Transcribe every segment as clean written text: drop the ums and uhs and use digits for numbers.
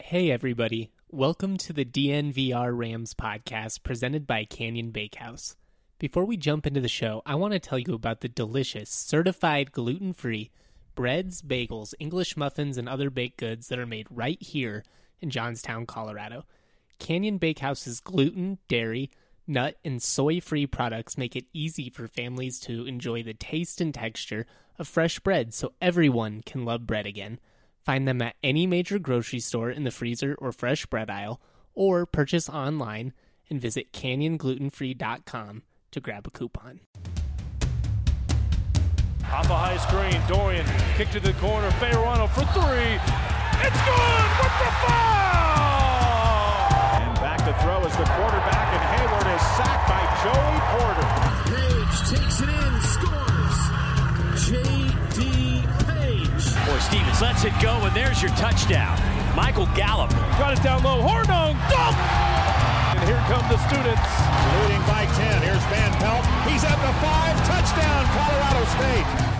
Hey everybody, welcome to the DNVR Rams podcast presented by Canyon Bakehouse. Before we jump into the show, I want to tell you about the delicious, certified gluten-free breads, bagels, English muffins, and other baked goods that are made right here in Johnstown, Colorado. Canyon Bakehouse's gluten, dairy, nut, and soy-free products make it easy for families to enjoy the taste and texture of fresh bread so everyone can love bread again. Find them at any major grocery store in the freezer or fresh bread aisle, or purchase online and visit canyonglutenfree.com to grab a coupon. Off a high screen, Dorian kick to the corner, Fayerano for three. It's good with the foul! And back to throw is the quarterback, and Hayward is sacked by Joey Porter. Page takes it in, scores. J.D. Page. Boy, Stevens lets it go, and there's your touchdown. Michael Gallup. Got it down low, Hornung, dunk! And here come the students. Leading by 10, here's Van Pelt. He's at the 5, touchdown, Colorado State.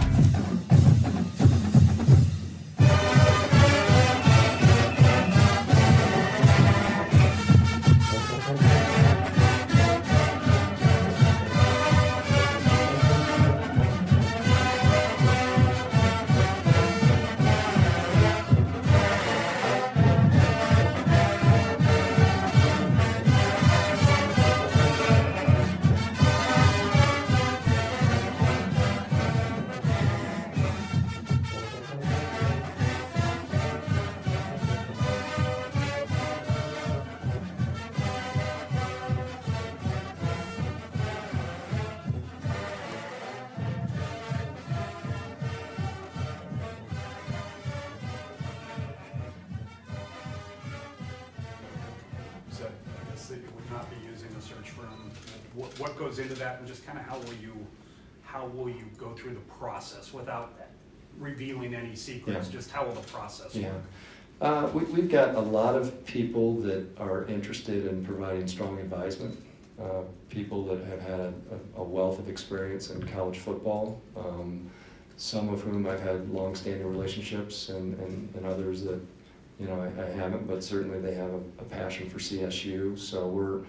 What goes into that, and just kind of how will you go through the process without revealing any secrets? Yeah. Just how will the process work? We've got a lot of people that are interested in providing strong advisement, people that have had a wealth of experience in college football, some of whom I've had long-standing relationships, and others that I haven't, but certainly they have a passion for CSU. So we're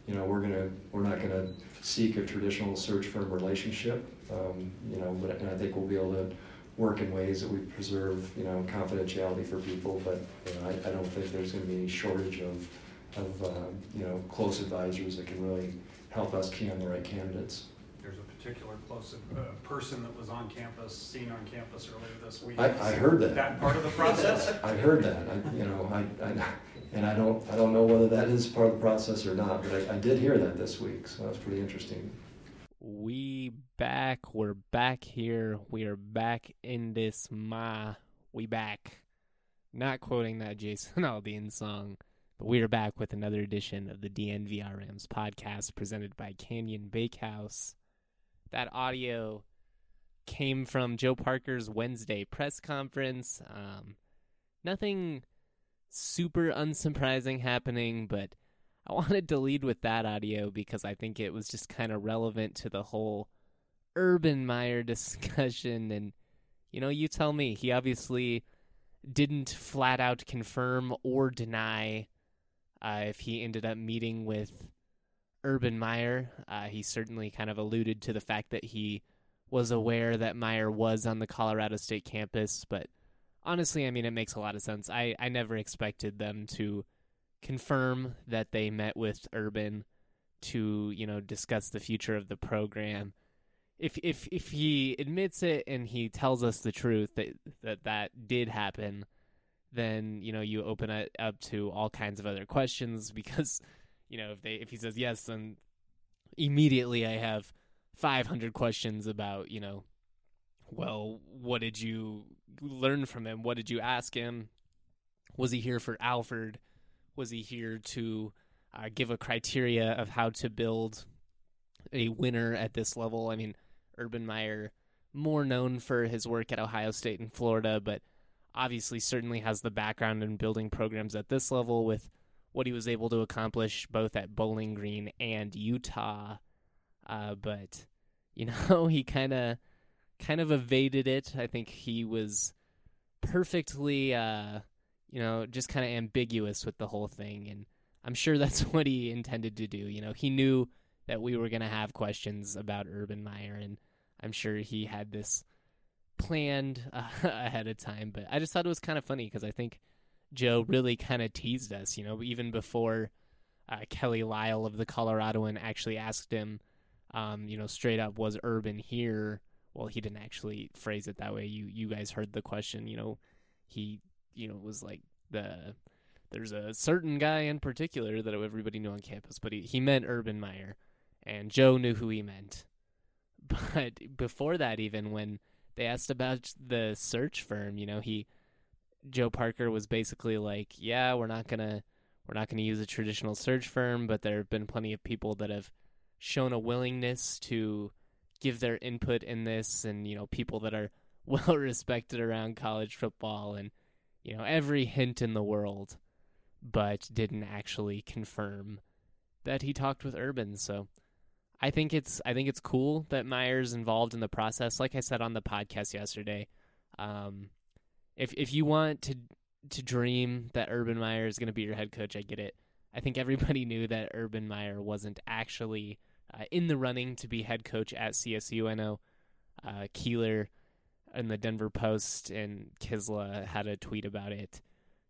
not gonna seek a traditional search firm relationship, but I think we'll be able to work in ways that we preserve, confidentiality for people. But I don't think there's going to be any shortage of close advisors that can really help us key on the right candidates. There's a particular close person that was on campus, seen on campus earlier this week. I heard that. That part of the process. I heard that. And I don't know whether that is part of the process or not, but I did hear that this week, so that's pretty interesting. We're back here, we are back in this we back. Not quoting that Jason Aldean song, but we are back with another edition of the DNVR Rams podcast presented by Canyon Bakehouse. That audio came from Joe Parker's Wednesday press conference. Nothing super unsurprising happening, but I wanted to lead with that audio because I think it was just kind of relevant to the whole Urban Meyer discussion. And, you tell me, he obviously didn't flat out confirm or deny if he ended up meeting with Urban Meyer. He certainly kind of alluded to the fact that he was aware that Meyer was on the Colorado State campus, but honestly, it makes a lot of sense. I never expected them to confirm that they met with Urban to, discuss the future of the program. If he admits it and he tells us the truth that did happen, then, you open it up to all kinds of other questions because, if he says yes, then immediately I have 500 questions about, well, what did you learn from him? What did you ask him? Was he here for Alford? Was he here to give a criteria of how to build a winner at this level? Urban Meyer, more known for his work at Ohio State and Florida, but obviously certainly has the background in building programs at this level with what he was able to accomplish both at Bowling Green and Utah. But, he kind of evaded it. I think he was perfectly just kind of ambiguous with the whole thing. And I'm sure that's what he intended to do. He knew that we were going to have questions about Urban Meyer, and I'm sure he had this planned ahead of time. But I just thought it was kind of funny because I think Joe really kind of teased us, even before Kelly Lyle of the Coloradoan actually asked him, straight up, was Urban here? Well, he didn't actually phrase it that way. You guys heard the question. He was like, there's a certain guy in particular that everybody knew on campus, but he meant Urban Meyer, and Joe knew who he meant. But before that, even when they asked about the search firm, Joe Parker was basically like, yeah, we're not gonna use a traditional search firm, but there have been plenty of people that have shown a willingness to give their input in this, and people that are well respected around college football, and every hint in the world, but didn't actually confirm that he talked with Urban. So I think it's cool that Meyer's involved in the process. Like I said on the podcast yesterday, if you want to dream that Urban Meyer is going to be your head coach, I get it. I think everybody knew that Urban Meyer wasn't actually in the running to be head coach at CSU. I know Keeler in the Denver Post and Kisla had a tweet about it.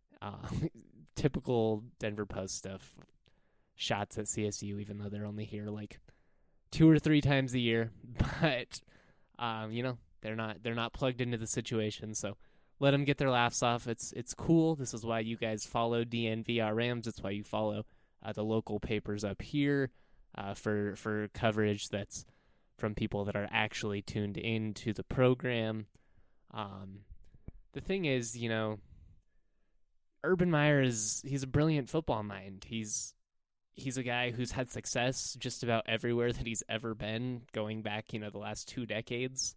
Typical Denver Post stuff. Shots at CSU, even though they're only here like 2 or 3 times a year. But they're not plugged into the situation, so let them get their laughs off. It's cool. This is why you guys follow DNVR Rams. It's why you follow the local papers up here for coverage that's from people that are actually tuned into the program. The thing is, Urban Meyer he's a brilliant football mind. He's a guy who's had success just about everywhere that he's ever been, going back, the last 2 decades.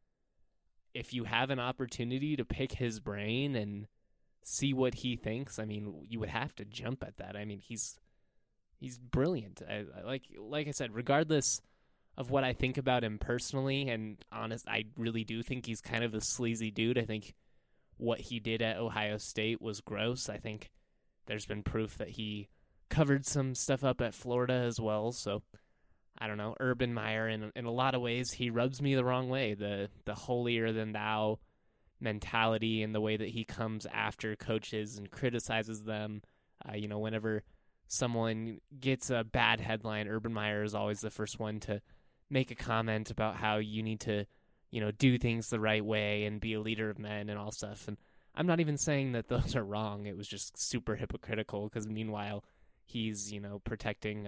If you have an opportunity to pick his brain and see what he thinks, I mean, you would have to jump at that. I mean, he's brilliant. Like I said, regardless of what I think about him personally, and honest, I really do think he's kind of a sleazy dude. I think what he did at Ohio State was gross. I think there's been proof that he covered some stuff up at Florida as well. So I don't know, Urban Meyer, in a lot of ways, he rubs me the wrong way. The holier-than-thou mentality and the way that he comes after coaches and criticizes them. Whenever someone gets a bad headline, Urban Meyer is always the first one to make a comment about how you need to, do things the right way and be a leader of men and all stuff. And I'm not even saying that those are wrong. It was just super hypocritical because meanwhile, he's, protecting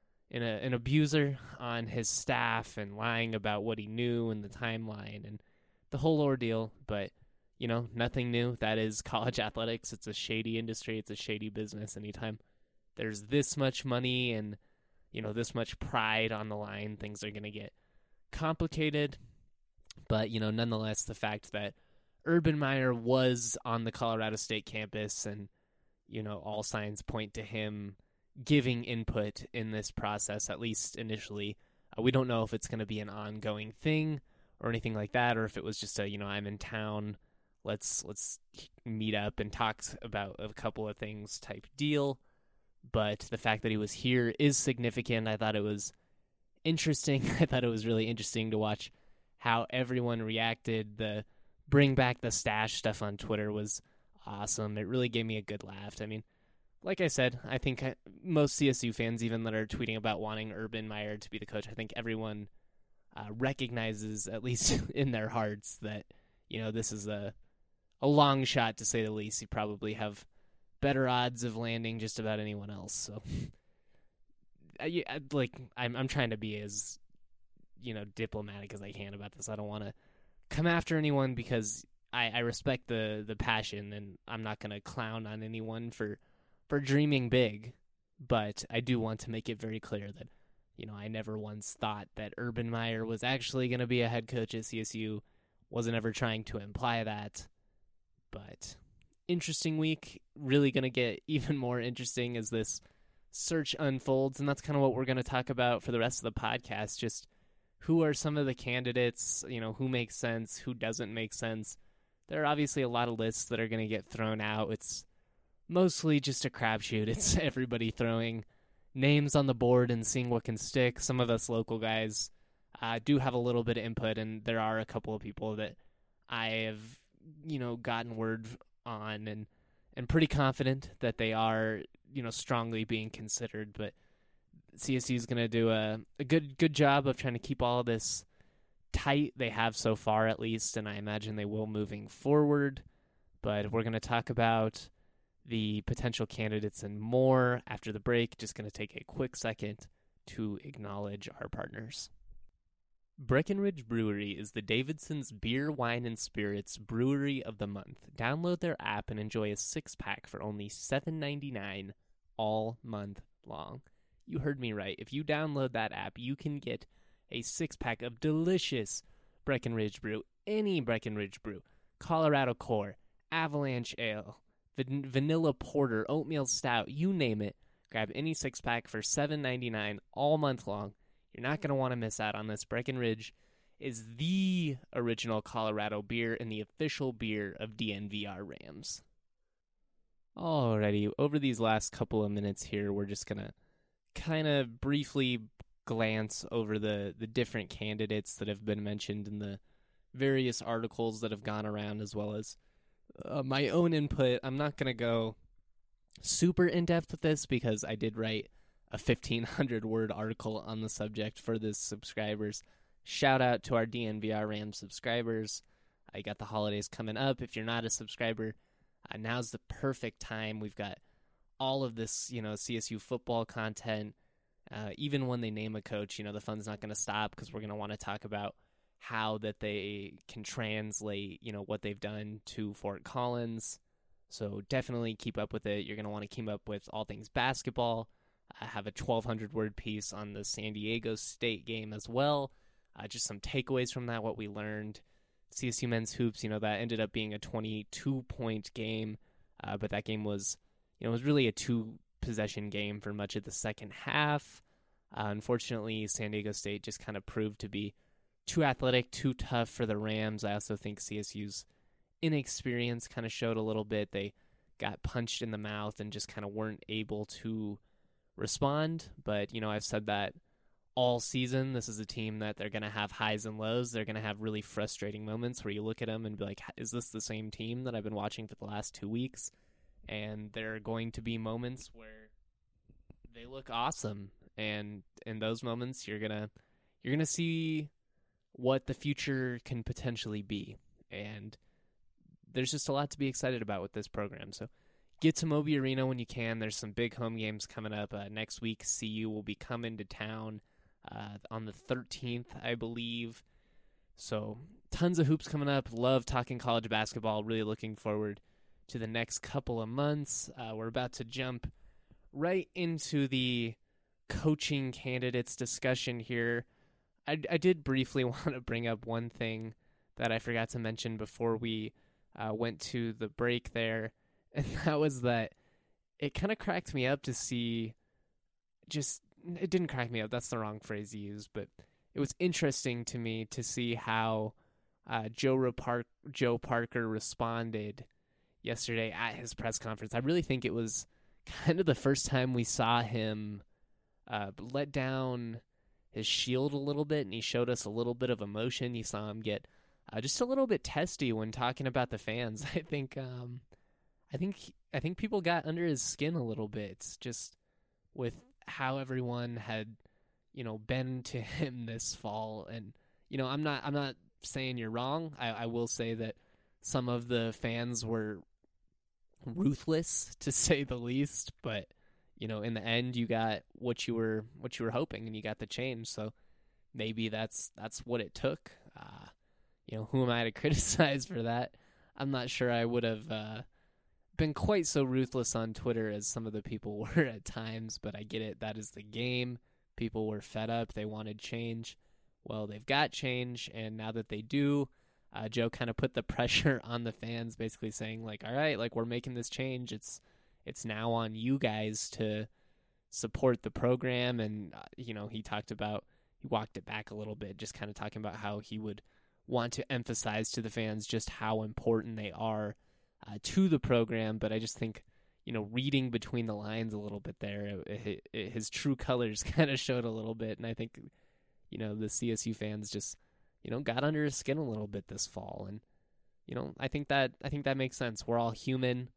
an abuser on his staff and lying about what he knew and the timeline and the whole ordeal. But, nothing new. That is college athletics. It's a shady industry. It's a shady business. Anytime there's this much money and, this much pride on the line, things are going to get complicated. But, nonetheless, the fact that Urban Meyer was on the Colorado State campus and, all signs point to him giving input in this process, at least initially. We don't know if it's going to be an ongoing thing or anything like that, or if it was just I'm in town, let's meet up and talk about a couple of things type deal. But the fact that he was here is significant. I thought it was interesting. I thought it was really interesting to watch how everyone reacted. The bring back the stash stuff on Twitter was awesome. It really gave me a good laugh. I mean, like I said, I think most CSU fans, even that are tweeting about wanting Urban Meyer to be the coach, I think everyone recognizes, at least in their hearts, that, this is a long shot, to say the least. You probably have better odds of landing just about anyone else. So, I'm trying to be as, diplomatic as I can about this. I don't want to come after anyone because I respect the passion, and I'm not going to clown on anyone for dreaming big, but I do want to make it very clear that, I never once thought that Urban Meyer was actually going to be a head coach at CSU. Wasn't ever trying to imply that. But interesting week, really going to get even more interesting as this search unfolds, and that's kind of what we're going to talk about for the rest of the podcast. Just who are some of the candidates, who makes sense, who doesn't make sense. There are obviously a lot of lists that are going to get thrown out. It's mostly just a crapshoot. It's everybody throwing names on the board and seeing what can stick. Some of us local guys do have a little bit of input, and there are a couple of people that I have, gotten word on and pretty confident that they are, strongly being considered. But CSU is going to do a good job of trying to keep all of this tight. They have so far, at least, and I imagine they will moving forward. But we're going to talk about the potential candidates and more after the break. Just going to take a quick second to acknowledge our partners. Breckenridge Brewery is the Davidson's Beer, Wine, and Spirits Brewery of the Month. Download their app and enjoy a 6-pack for only $7.99 all month long. You heard me right. If you download that app, you can get a 6-pack of delicious Breckenridge brew, any Breckenridge brew, Colorado Core, Avalanche Ale, Vanilla Porter, Oatmeal Stout, you name it. Grab any 6-pack for $7.99 all month long. You're not going to want to miss out on this. Breckenridge is the original Colorado beer and the official beer of DNVR Rams. Alrighty, over these last couple of minutes here, we're just going to kind of briefly glance over the different candidates that have been mentioned in the various articles that have gone around, as well as my own input. I'm not going to go super in-depth with this because I did write a 1,500-word article on the subject for the subscribers. Shout out to our DNVR Rams subscribers. I got the holidays coming up. If you're not a subscriber, now's the perfect time. We've got all of this, CSU football content. Even when they name a coach, the fun's not going to stop because we're going to want to talk about how that they can translate, what they've done to Fort Collins. So definitely keep up with it. You're going to want to keep up with all things basketball. I have a 1,200-word piece on the San Diego State game as well. Just some takeaways from that, what we learned. CSU men's hoops, that ended up being a 22-point game, but that game was, it was really a 2-possession game for much of the second half. Unfortunately, San Diego State just kind of proved to be too athletic, too tough for the Rams. I also think CSU's inexperience kind of showed a little bit. They got punched in the mouth and just kind of weren't able to respond. But, I've said that all season. This is a team that they're going to have highs and lows. They're going to have really frustrating moments where you look at them and be like, is this the same team that I've been watching for the last 2 weeks? And there are going to be moments where they look awesome. And in those moments, you're going to see what the future can potentially be. And there's just a lot to be excited about with this program. So get to Moby Arena when you can. There's some big home games coming up. Next week, CU will be coming to town on the 13th, I believe. So tons of hoops coming up. Love talking college basketball. Really looking forward to the next couple of months. We're about to jump right into the coaching candidates discussion here. I did briefly want to bring up one thing that I forgot to mention before we went to the break there. And that was that it kind of cracked me up to see it didn't crack me up. That's the wrong phrase to use, but it was interesting to me to see how Joe Parker responded yesterday at his press conference. I really think it was kind of the first time we saw him let down his shield a little bit, and he showed us a little bit of emotion. You saw him get just a little bit testy when talking about the fans. I think people got under his skin a little bit, just with how everyone had, been to him this fall. And, I'm not saying you're wrong. I will say that some of the fans were ruthless, to say the least, but, in the end you got what you were hoping, and you got the change. So maybe that's what it took. Who am I to criticize for that? I'm not sure I would have, been quite so ruthless on Twitter as some of the people were at times, but I get it. That is the game. People were fed up. They wanted change. Well, they've got change, and now that they do, Joe kind of put the pressure on the fans, basically saying, like, all right, like, we're making this change. It's now on you guys to support the program. And, he walked it back a little bit, just kind of talking about how he would want to emphasize to the fans just how important they are to the program. But I just think, reading between the lines a little bit there. His true colors kind of showed a little bit, and I think, the CSU fans just, got under his skin a little bit this fall, and I think that makes sense. We're all human.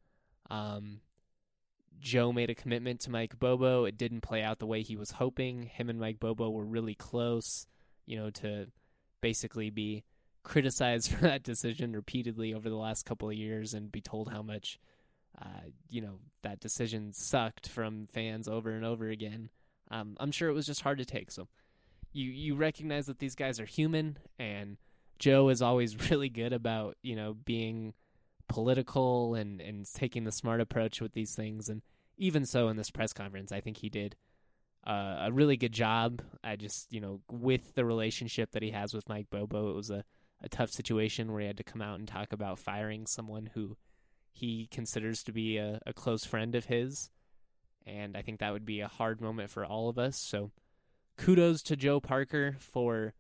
Joe made a commitment to Mike Bobo. It didn't play out the way he was hoping. Him and Mike Bobo were really close, to basically be criticized for that decision repeatedly over the last couple of years and be told how much, that decision sucked from fans over and over again. I'm sure it was just hard to take. So you recognize that these guys are human, and Joe is always really good about, being political and taking the smart approach with these things. And even so in this press conference, I think he did a really good job. I just, with the relationship that he has with Mike Bobo, it was a tough situation where he had to come out and talk about firing someone who he considers to be a close friend of his. And I think that would be a hard moment for all of us. So kudos to Joe Parker for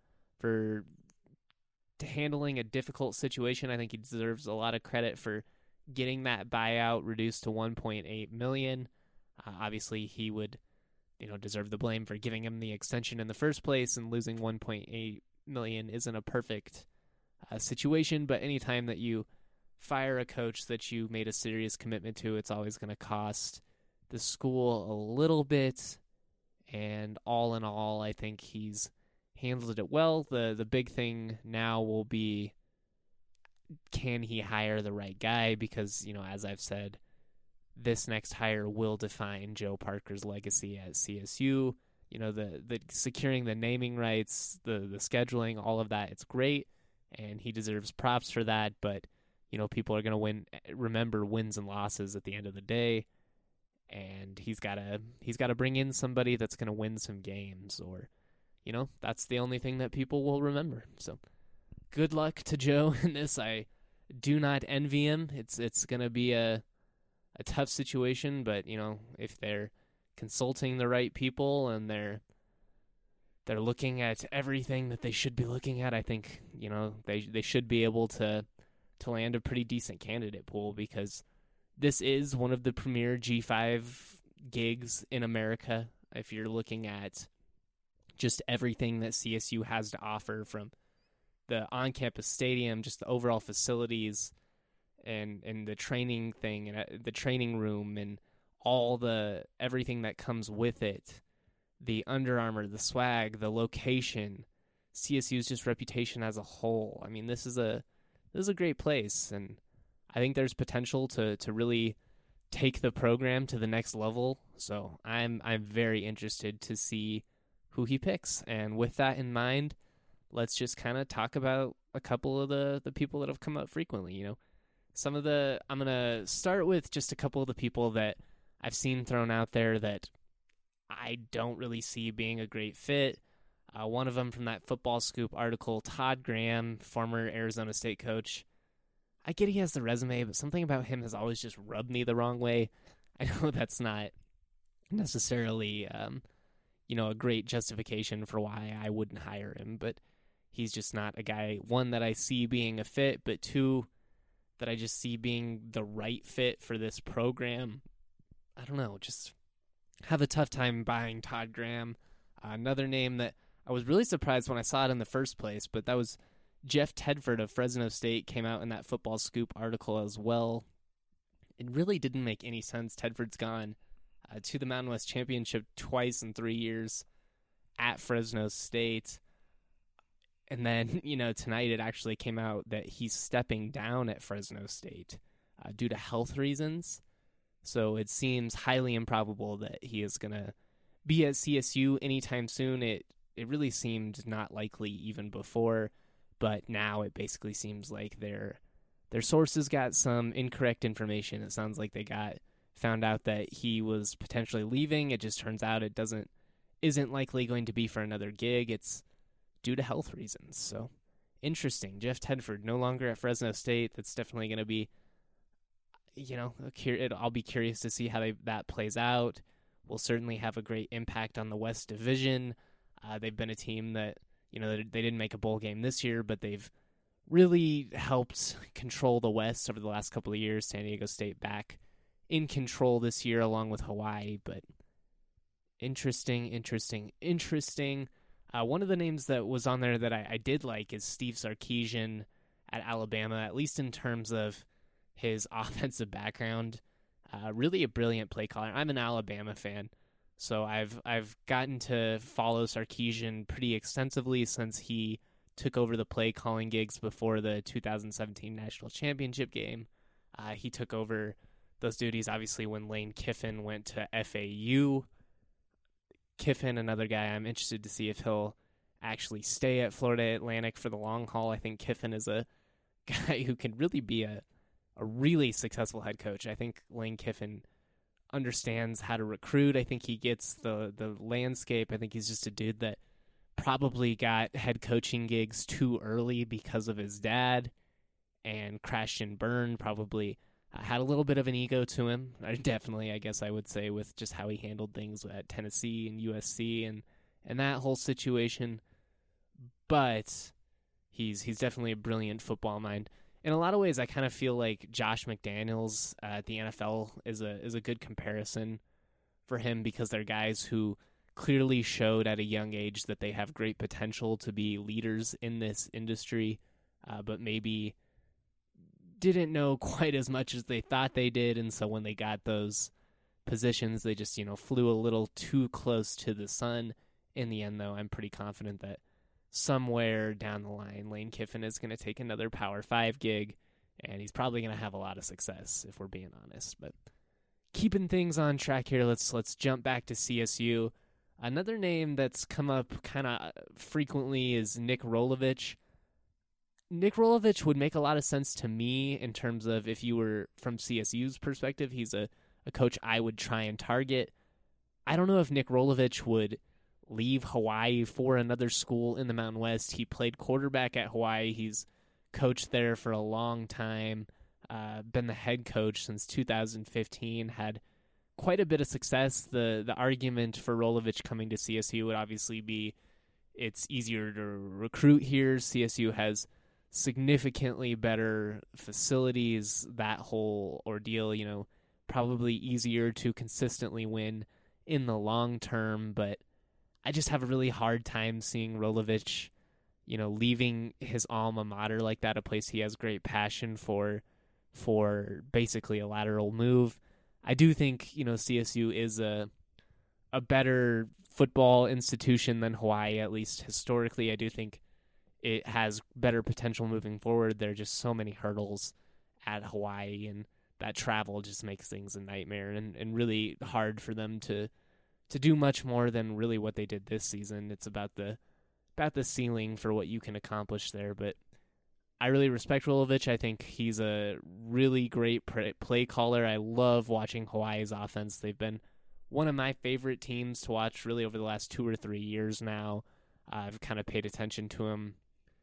handling a difficult situation. I think he deserves a lot of credit for getting that buyout reduced to $1.8 million. Obviously, he would, deserve the blame for giving him the extension in the first place, and losing $1.8 million isn't a perfect situation. But anytime that you fire a coach that you made a serious commitment to, it's always going to cost the school a little bit. And all in all, I think he's handled it well. The big thing now will be, can he hire the right guy? Because, as I've said, this next hire will define Joe Parker's legacy at CSU. The securing the naming rights, the scheduling, all of that, it's great, and he deserves props for that. But, people are going to remember wins and losses at the end of the day. And he's got to bring in somebody that's going to win some games, or, that's the only thing that people will remember. So good luck to Joe in this. I do not envy him. It's going to be a tough situation, but, if they're consulting the right people and they're looking at everything that they should be looking at, I think, they should be able to land a pretty decent candidate pool, because this is one of the premier G5 gigs in America. If you're looking at just everything that CSU has to offer, from the on-campus stadium, just the overall facilities, and the training thing, and the training room, and everything that comes with it, the Under Armour, the swag, the location, CSU's just reputation as a whole. I mean, this is a great place, and I think there's potential to really take the program to the next level. So I'm very interested to see who he picks. And with that in mind, let's just kind of talk about a couple of the people that have come up frequently. I'm going to start with just a couple of the people that I've seen thrown out there that I don't really see being a great fit. One of them from that Football Scoop article, Todd Graham, former Arizona State coach. I get he has the resume, but something about him has always just rubbed me the wrong way. I know that's not necessarily, a great justification for why I wouldn't hire him, but he's just not a guy, one, that I see being a fit, but two, that I just see being the right fit for this program. I don't know, just have a tough time buying Todd Graham. Another name that I was really surprised when I saw it in the first place, but that was Jeff Tedford of Fresno State. Came out in that Football Scoop article as well. It really didn't make any sense. Tedford's gone to the Mountain West Championship twice in 3 years at Fresno State. And then, tonight it actually came out that he's stepping down at Fresno State due to health reasons. So it seems highly improbable that he is going to be at CSU anytime soon. It really seemed not likely even before, but now it basically seems like their sources got some incorrect information. It sounds like they found out that he was potentially leaving. It just turns out it isn't likely going to be for another gig. It's due to health reasons. So interesting. Jeff Tedford no longer at Fresno State. That's definitely going to be, I'll be curious to see how that plays out. Will certainly have a great impact on the West Division. They've been a team that, they didn't make a bowl game this year, but they've really helped control the West over the last couple of years. San Diego State back in control this year along with Hawaii, but interesting. One of the names that was on there that I did like is Steve Sarkisian at Alabama, at least in terms of his offensive background. Really a brilliant play caller. I'm an Alabama fan, so I've gotten to follow Sarkisian pretty extensively since he took over the play calling gigs before the 2017 National Championship game. He took over those duties, obviously, when Lane Kiffin went to FAU. Kiffin, another guy I'm interested to see if he'll actually stay at Florida Atlantic for the long haul. I think Kiffin is a guy who can really be a really successful head coach. I think Lane Kiffin understands how to recruit. I think he gets the landscape. I think he's just a dude that probably got head coaching gigs too early because of his dad and crashed and burned, probably had a little bit of an ego to him. Definitely, I guess I would say, with just how he handled things at Tennessee and USC and that whole situation. But he's definitely a brilliant football mind. In a lot of ways, I kind of feel like Josh McDaniels at the NFL is a good comparison for him, because they're guys who clearly showed at a young age that they have great potential to be leaders in this industry, but maybe didn't know quite as much as they thought they did, and so when they got those positions, they just, flew a little too close to the sun. In the end, though, I'm pretty confident that somewhere down the line, Lane Kiffin is going to take another Power 5 gig, and he's probably going to have a lot of success, if we're being honest. But keeping things on track here, let's jump back to CSU. Another name that's come up kind of frequently is Nick Rolovich. Nick Rolovich would make a lot of sense to me in terms of, if you were from CSU's perspective, he's a coach I would try and target. I don't know if Nick Rolovich would leave Hawaii for another school in the Mountain West. He played quarterback at Hawaii. He's coached there for a long time, been the head coach since 2015, had quite a bit of success. The argument for Rolovich coming to CSU would obviously be it's easier to recruit here. CSU has significantly better facilities, that whole ordeal, probably easier to consistently win in the long term, but I just have a really hard time seeing Rolovich, leaving his alma mater like that, a place he has great passion for basically a lateral move. I do think, CSU is a better football institution than Hawaii, at least historically. I do think it has better potential moving forward. There are just so many hurdles at Hawaii, and that travel just makes things a nightmare and really hard for them to do much more than really what they did this season. It's about the ceiling for what you can accomplish there. But I really respect Rolovich. I think he's a really great play caller. I love watching Hawaii's offense. They've been one of my favorite teams to watch really over the last 2 or 3 years now. I've kind of paid attention to him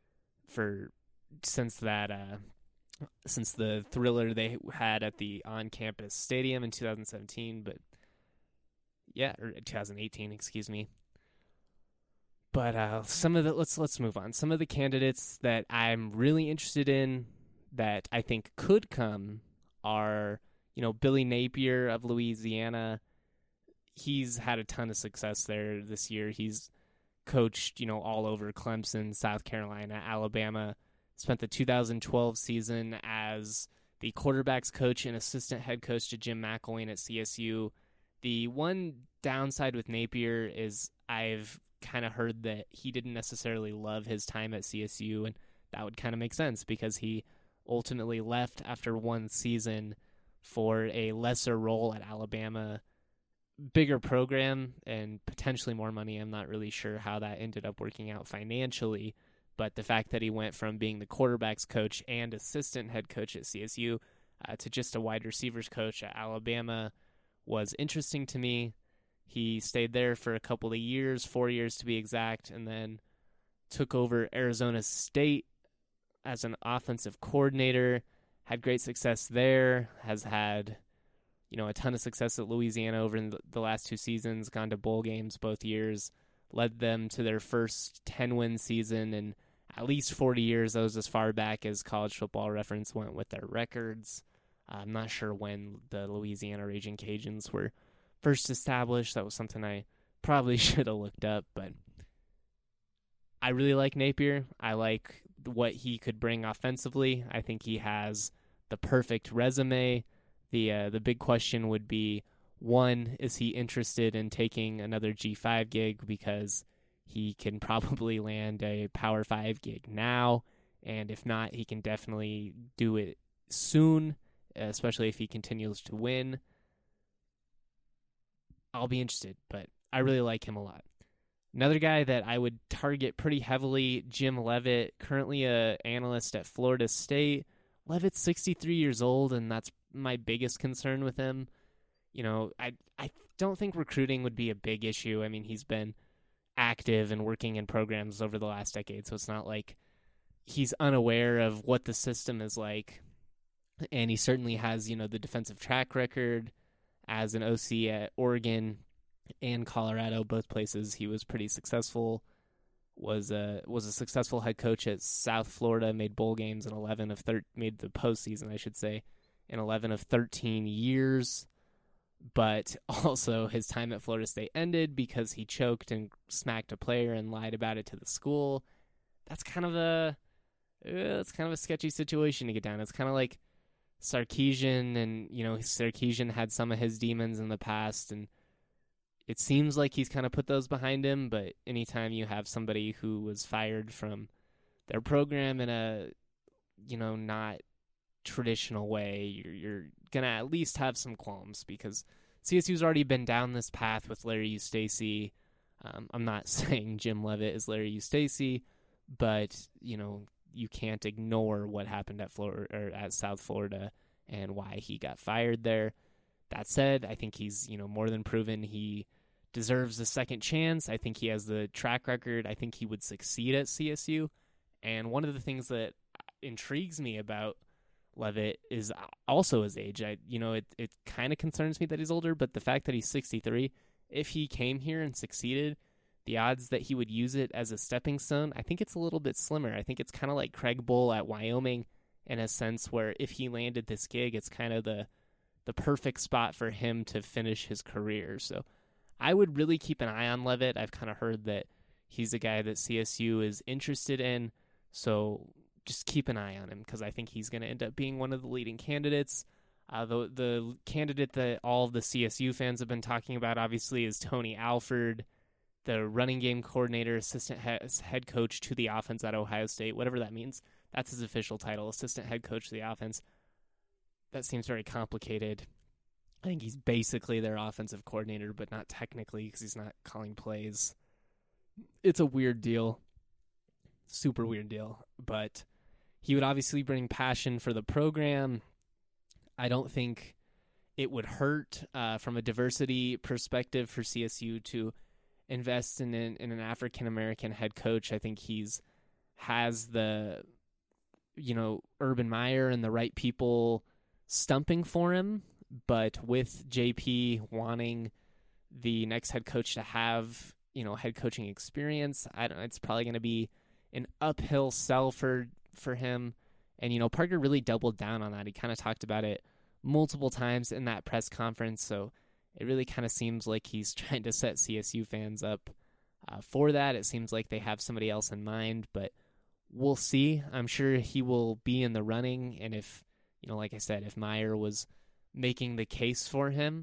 since the thriller they had at the on-campus stadium in 2017, but or 2018, excuse me. But let's move on. Some of the candidates that I'm really interested in that I think could come are, Billy Napier of Louisiana. He's had a ton of success there this year. He's coached, all over Clemson, South Carolina, Alabama. Spent the 2012 season as the quarterback's coach and assistant head coach to Jim McElwain at CSU. The one downside with Napier is I've kind of heard that he didn't necessarily love his time at CSU, and that would kind of make sense because he ultimately left after one season for a lesser role at Alabama. Bigger program and potentially more money. I'm not really sure how that ended up working out financially, but the fact that he went from being the quarterback's coach and assistant head coach at CSU to just a wide receivers coach at Alabama was interesting to me. He stayed there for a couple of years, 4 years to be exact, and then took over Arizona State as an offensive coordinator, had great success there, has had a ton of success at Louisiana over in the last 2 seasons, gone to bowl games both years, led them to their first 10-win season in at least 40 years. That was as far back as College Football Reference went with their records. I'm not sure when the Louisiana Raging Cajuns were first established. That was something I probably should have looked up, but I really like Napier. I like what he could bring offensively. I think he has the perfect resume. The big question would be, one, is he interested in taking another G5 gig, because he can probably land a Power 5 gig now, and if not, he can definitely do it soon, especially if he continues to win. I'll be interested, but I really like him a lot. Another guy that I would target pretty heavily, Jim Leavitt, currently an analyst at Florida State. Leavitt's 63 years old, and that's my biggest concern with him. You know, I don't think recruiting would be a big issue. I mean, he's been active and working in programs over the last decade, so it's not like he's unaware of what the system is like. And he certainly has, you know, the defensive track record as an OC at Oregon and Colorado, both places he was pretty successful. Was a successful head coach at South Florida, made bowl games in made the postseason, I should say, in 11 of 13 years. But also his time at Florida State ended because he choked and smacked a player and lied about it to the school. That's kind of a sketchy situation to get down. It's kind of like Sarkisian, and you know, Sarkisian had some of his demons in the past, and it seems like he's kind of put those behind him. But anytime you have somebody who was fired from their program in a, you know, not traditional way, you're gonna at least have some qualms, because CSU's already been down this path with Larry Eustachy. I'm not saying Jim Leavitt is Larry Eustachy, but you know, you can't ignore what happened at Florida or at South Florida and why he got fired there. That said, I think he's, you know, more than proven he deserves a second chance. I think he has the track record. I think he would succeed at CSU. And one of the things that intrigues me about Leavitt is also his age. It kind of concerns me that he's older, but the fact that he's 63, if he came here and succeeded, the odds that he would use it as a stepping stone, I think it's a little bit slimmer. I think it's kind of like Craig Bull at Wyoming in a sense, where if he landed this gig, it's kind of the perfect spot for him to finish his career. So I would really keep an eye on Leavitt. I've kind of heard that he's a guy that CSU is interested in, so just keep an eye on him, because I think he's going to end up being one of the leading candidates. The candidate that all of the CSU fans have been talking about, obviously, is Tony Alford, the running game coordinator, assistant head coach to the offense at Ohio State, whatever that means. That's his official title, assistant head coach to the offense. That seems very complicated. I think he's basically their offensive coordinator, but not technically, because he's not calling plays. It's a weird deal. Super weird deal. But he would obviously bring passion for the program. I don't think it would hurt from a diversity perspective for CSU to invest in an African-American head coach. I think has the, you know, Urban Meyer and the right people stumping for him, but with JP wanting the next head coach to have, you know, head coaching experience, it's probably going to be an uphill sell for him. And, you know, Parker really doubled down on that. He kind of talked about it multiple times in that press conference, so it really kind of seems like he's trying to set CSU fans up for that. It seems like they have somebody else in mind, but we'll see. I'm sure he will be in the running, and if, you know, like I said, if Meyer was making the case for him,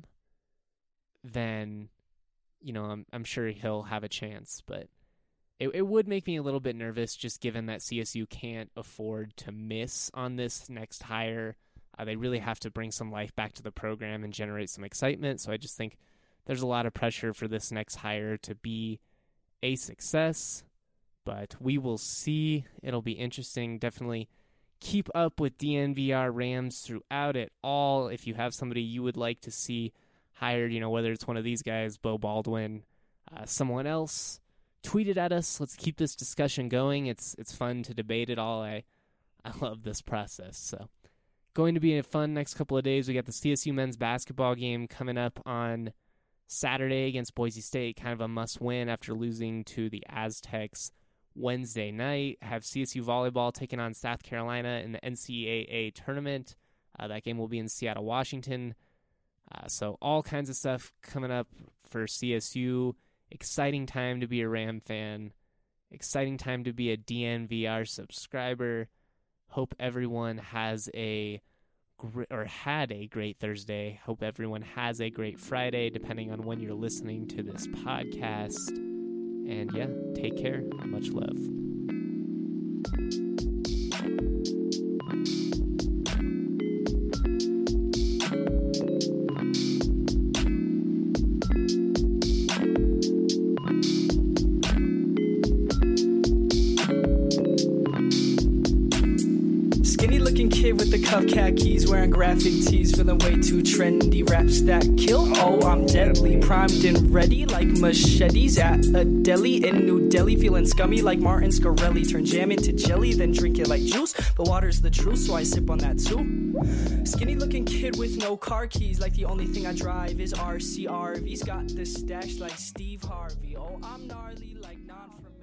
then, you know, I'm sure he'll have a chance. But it would make me a little bit nervous, just given that CSU can't afford to miss on this next hire. They really have to bring some life back to the program and generate some excitement. So I just think there's a lot of pressure for this next hire to be a success. But we will see. It'll be interesting. Definitely keep up with DNVR Rams throughout it all. If you have somebody you would like to see hired, you know, whether it's one of these guys, Beau Baldwin, someone else, tweet it at us. Let's keep this discussion going. It's fun to debate it all. I love this process. So going to be a fun next couple of days. We got the CSU men's basketball game coming up on Saturday against Boise State, kind of a must-win after losing to the Aztecs Wednesday night. Have CSU volleyball taking on South Carolina in the NCAA tournament. That game will be in Seattle, Washington. So all kinds of stuff coming up for CSU. Exciting time to be a Ram fan. Exciting time to be a DNVR subscriber. Hope everyone had a great Thursday. Hope everyone has a great Friday, depending on when you're listening to this podcast. And yeah, take care. Much love. Kid with the cuff khakis, wearing graphic tees, feeling way too trendy. Raps that kill, oh I'm deadly, primed and ready like machetes at a deli in New Delhi. Feeling scummy like Martin Scarelli, turn jam into jelly, then drink it like juice. But water's the truth, so I sip on that too. Skinny looking kid with no car keys, like the only thing I drive is RCRV's. Got the stash like Steve Harvey, oh I'm gnarly like non-from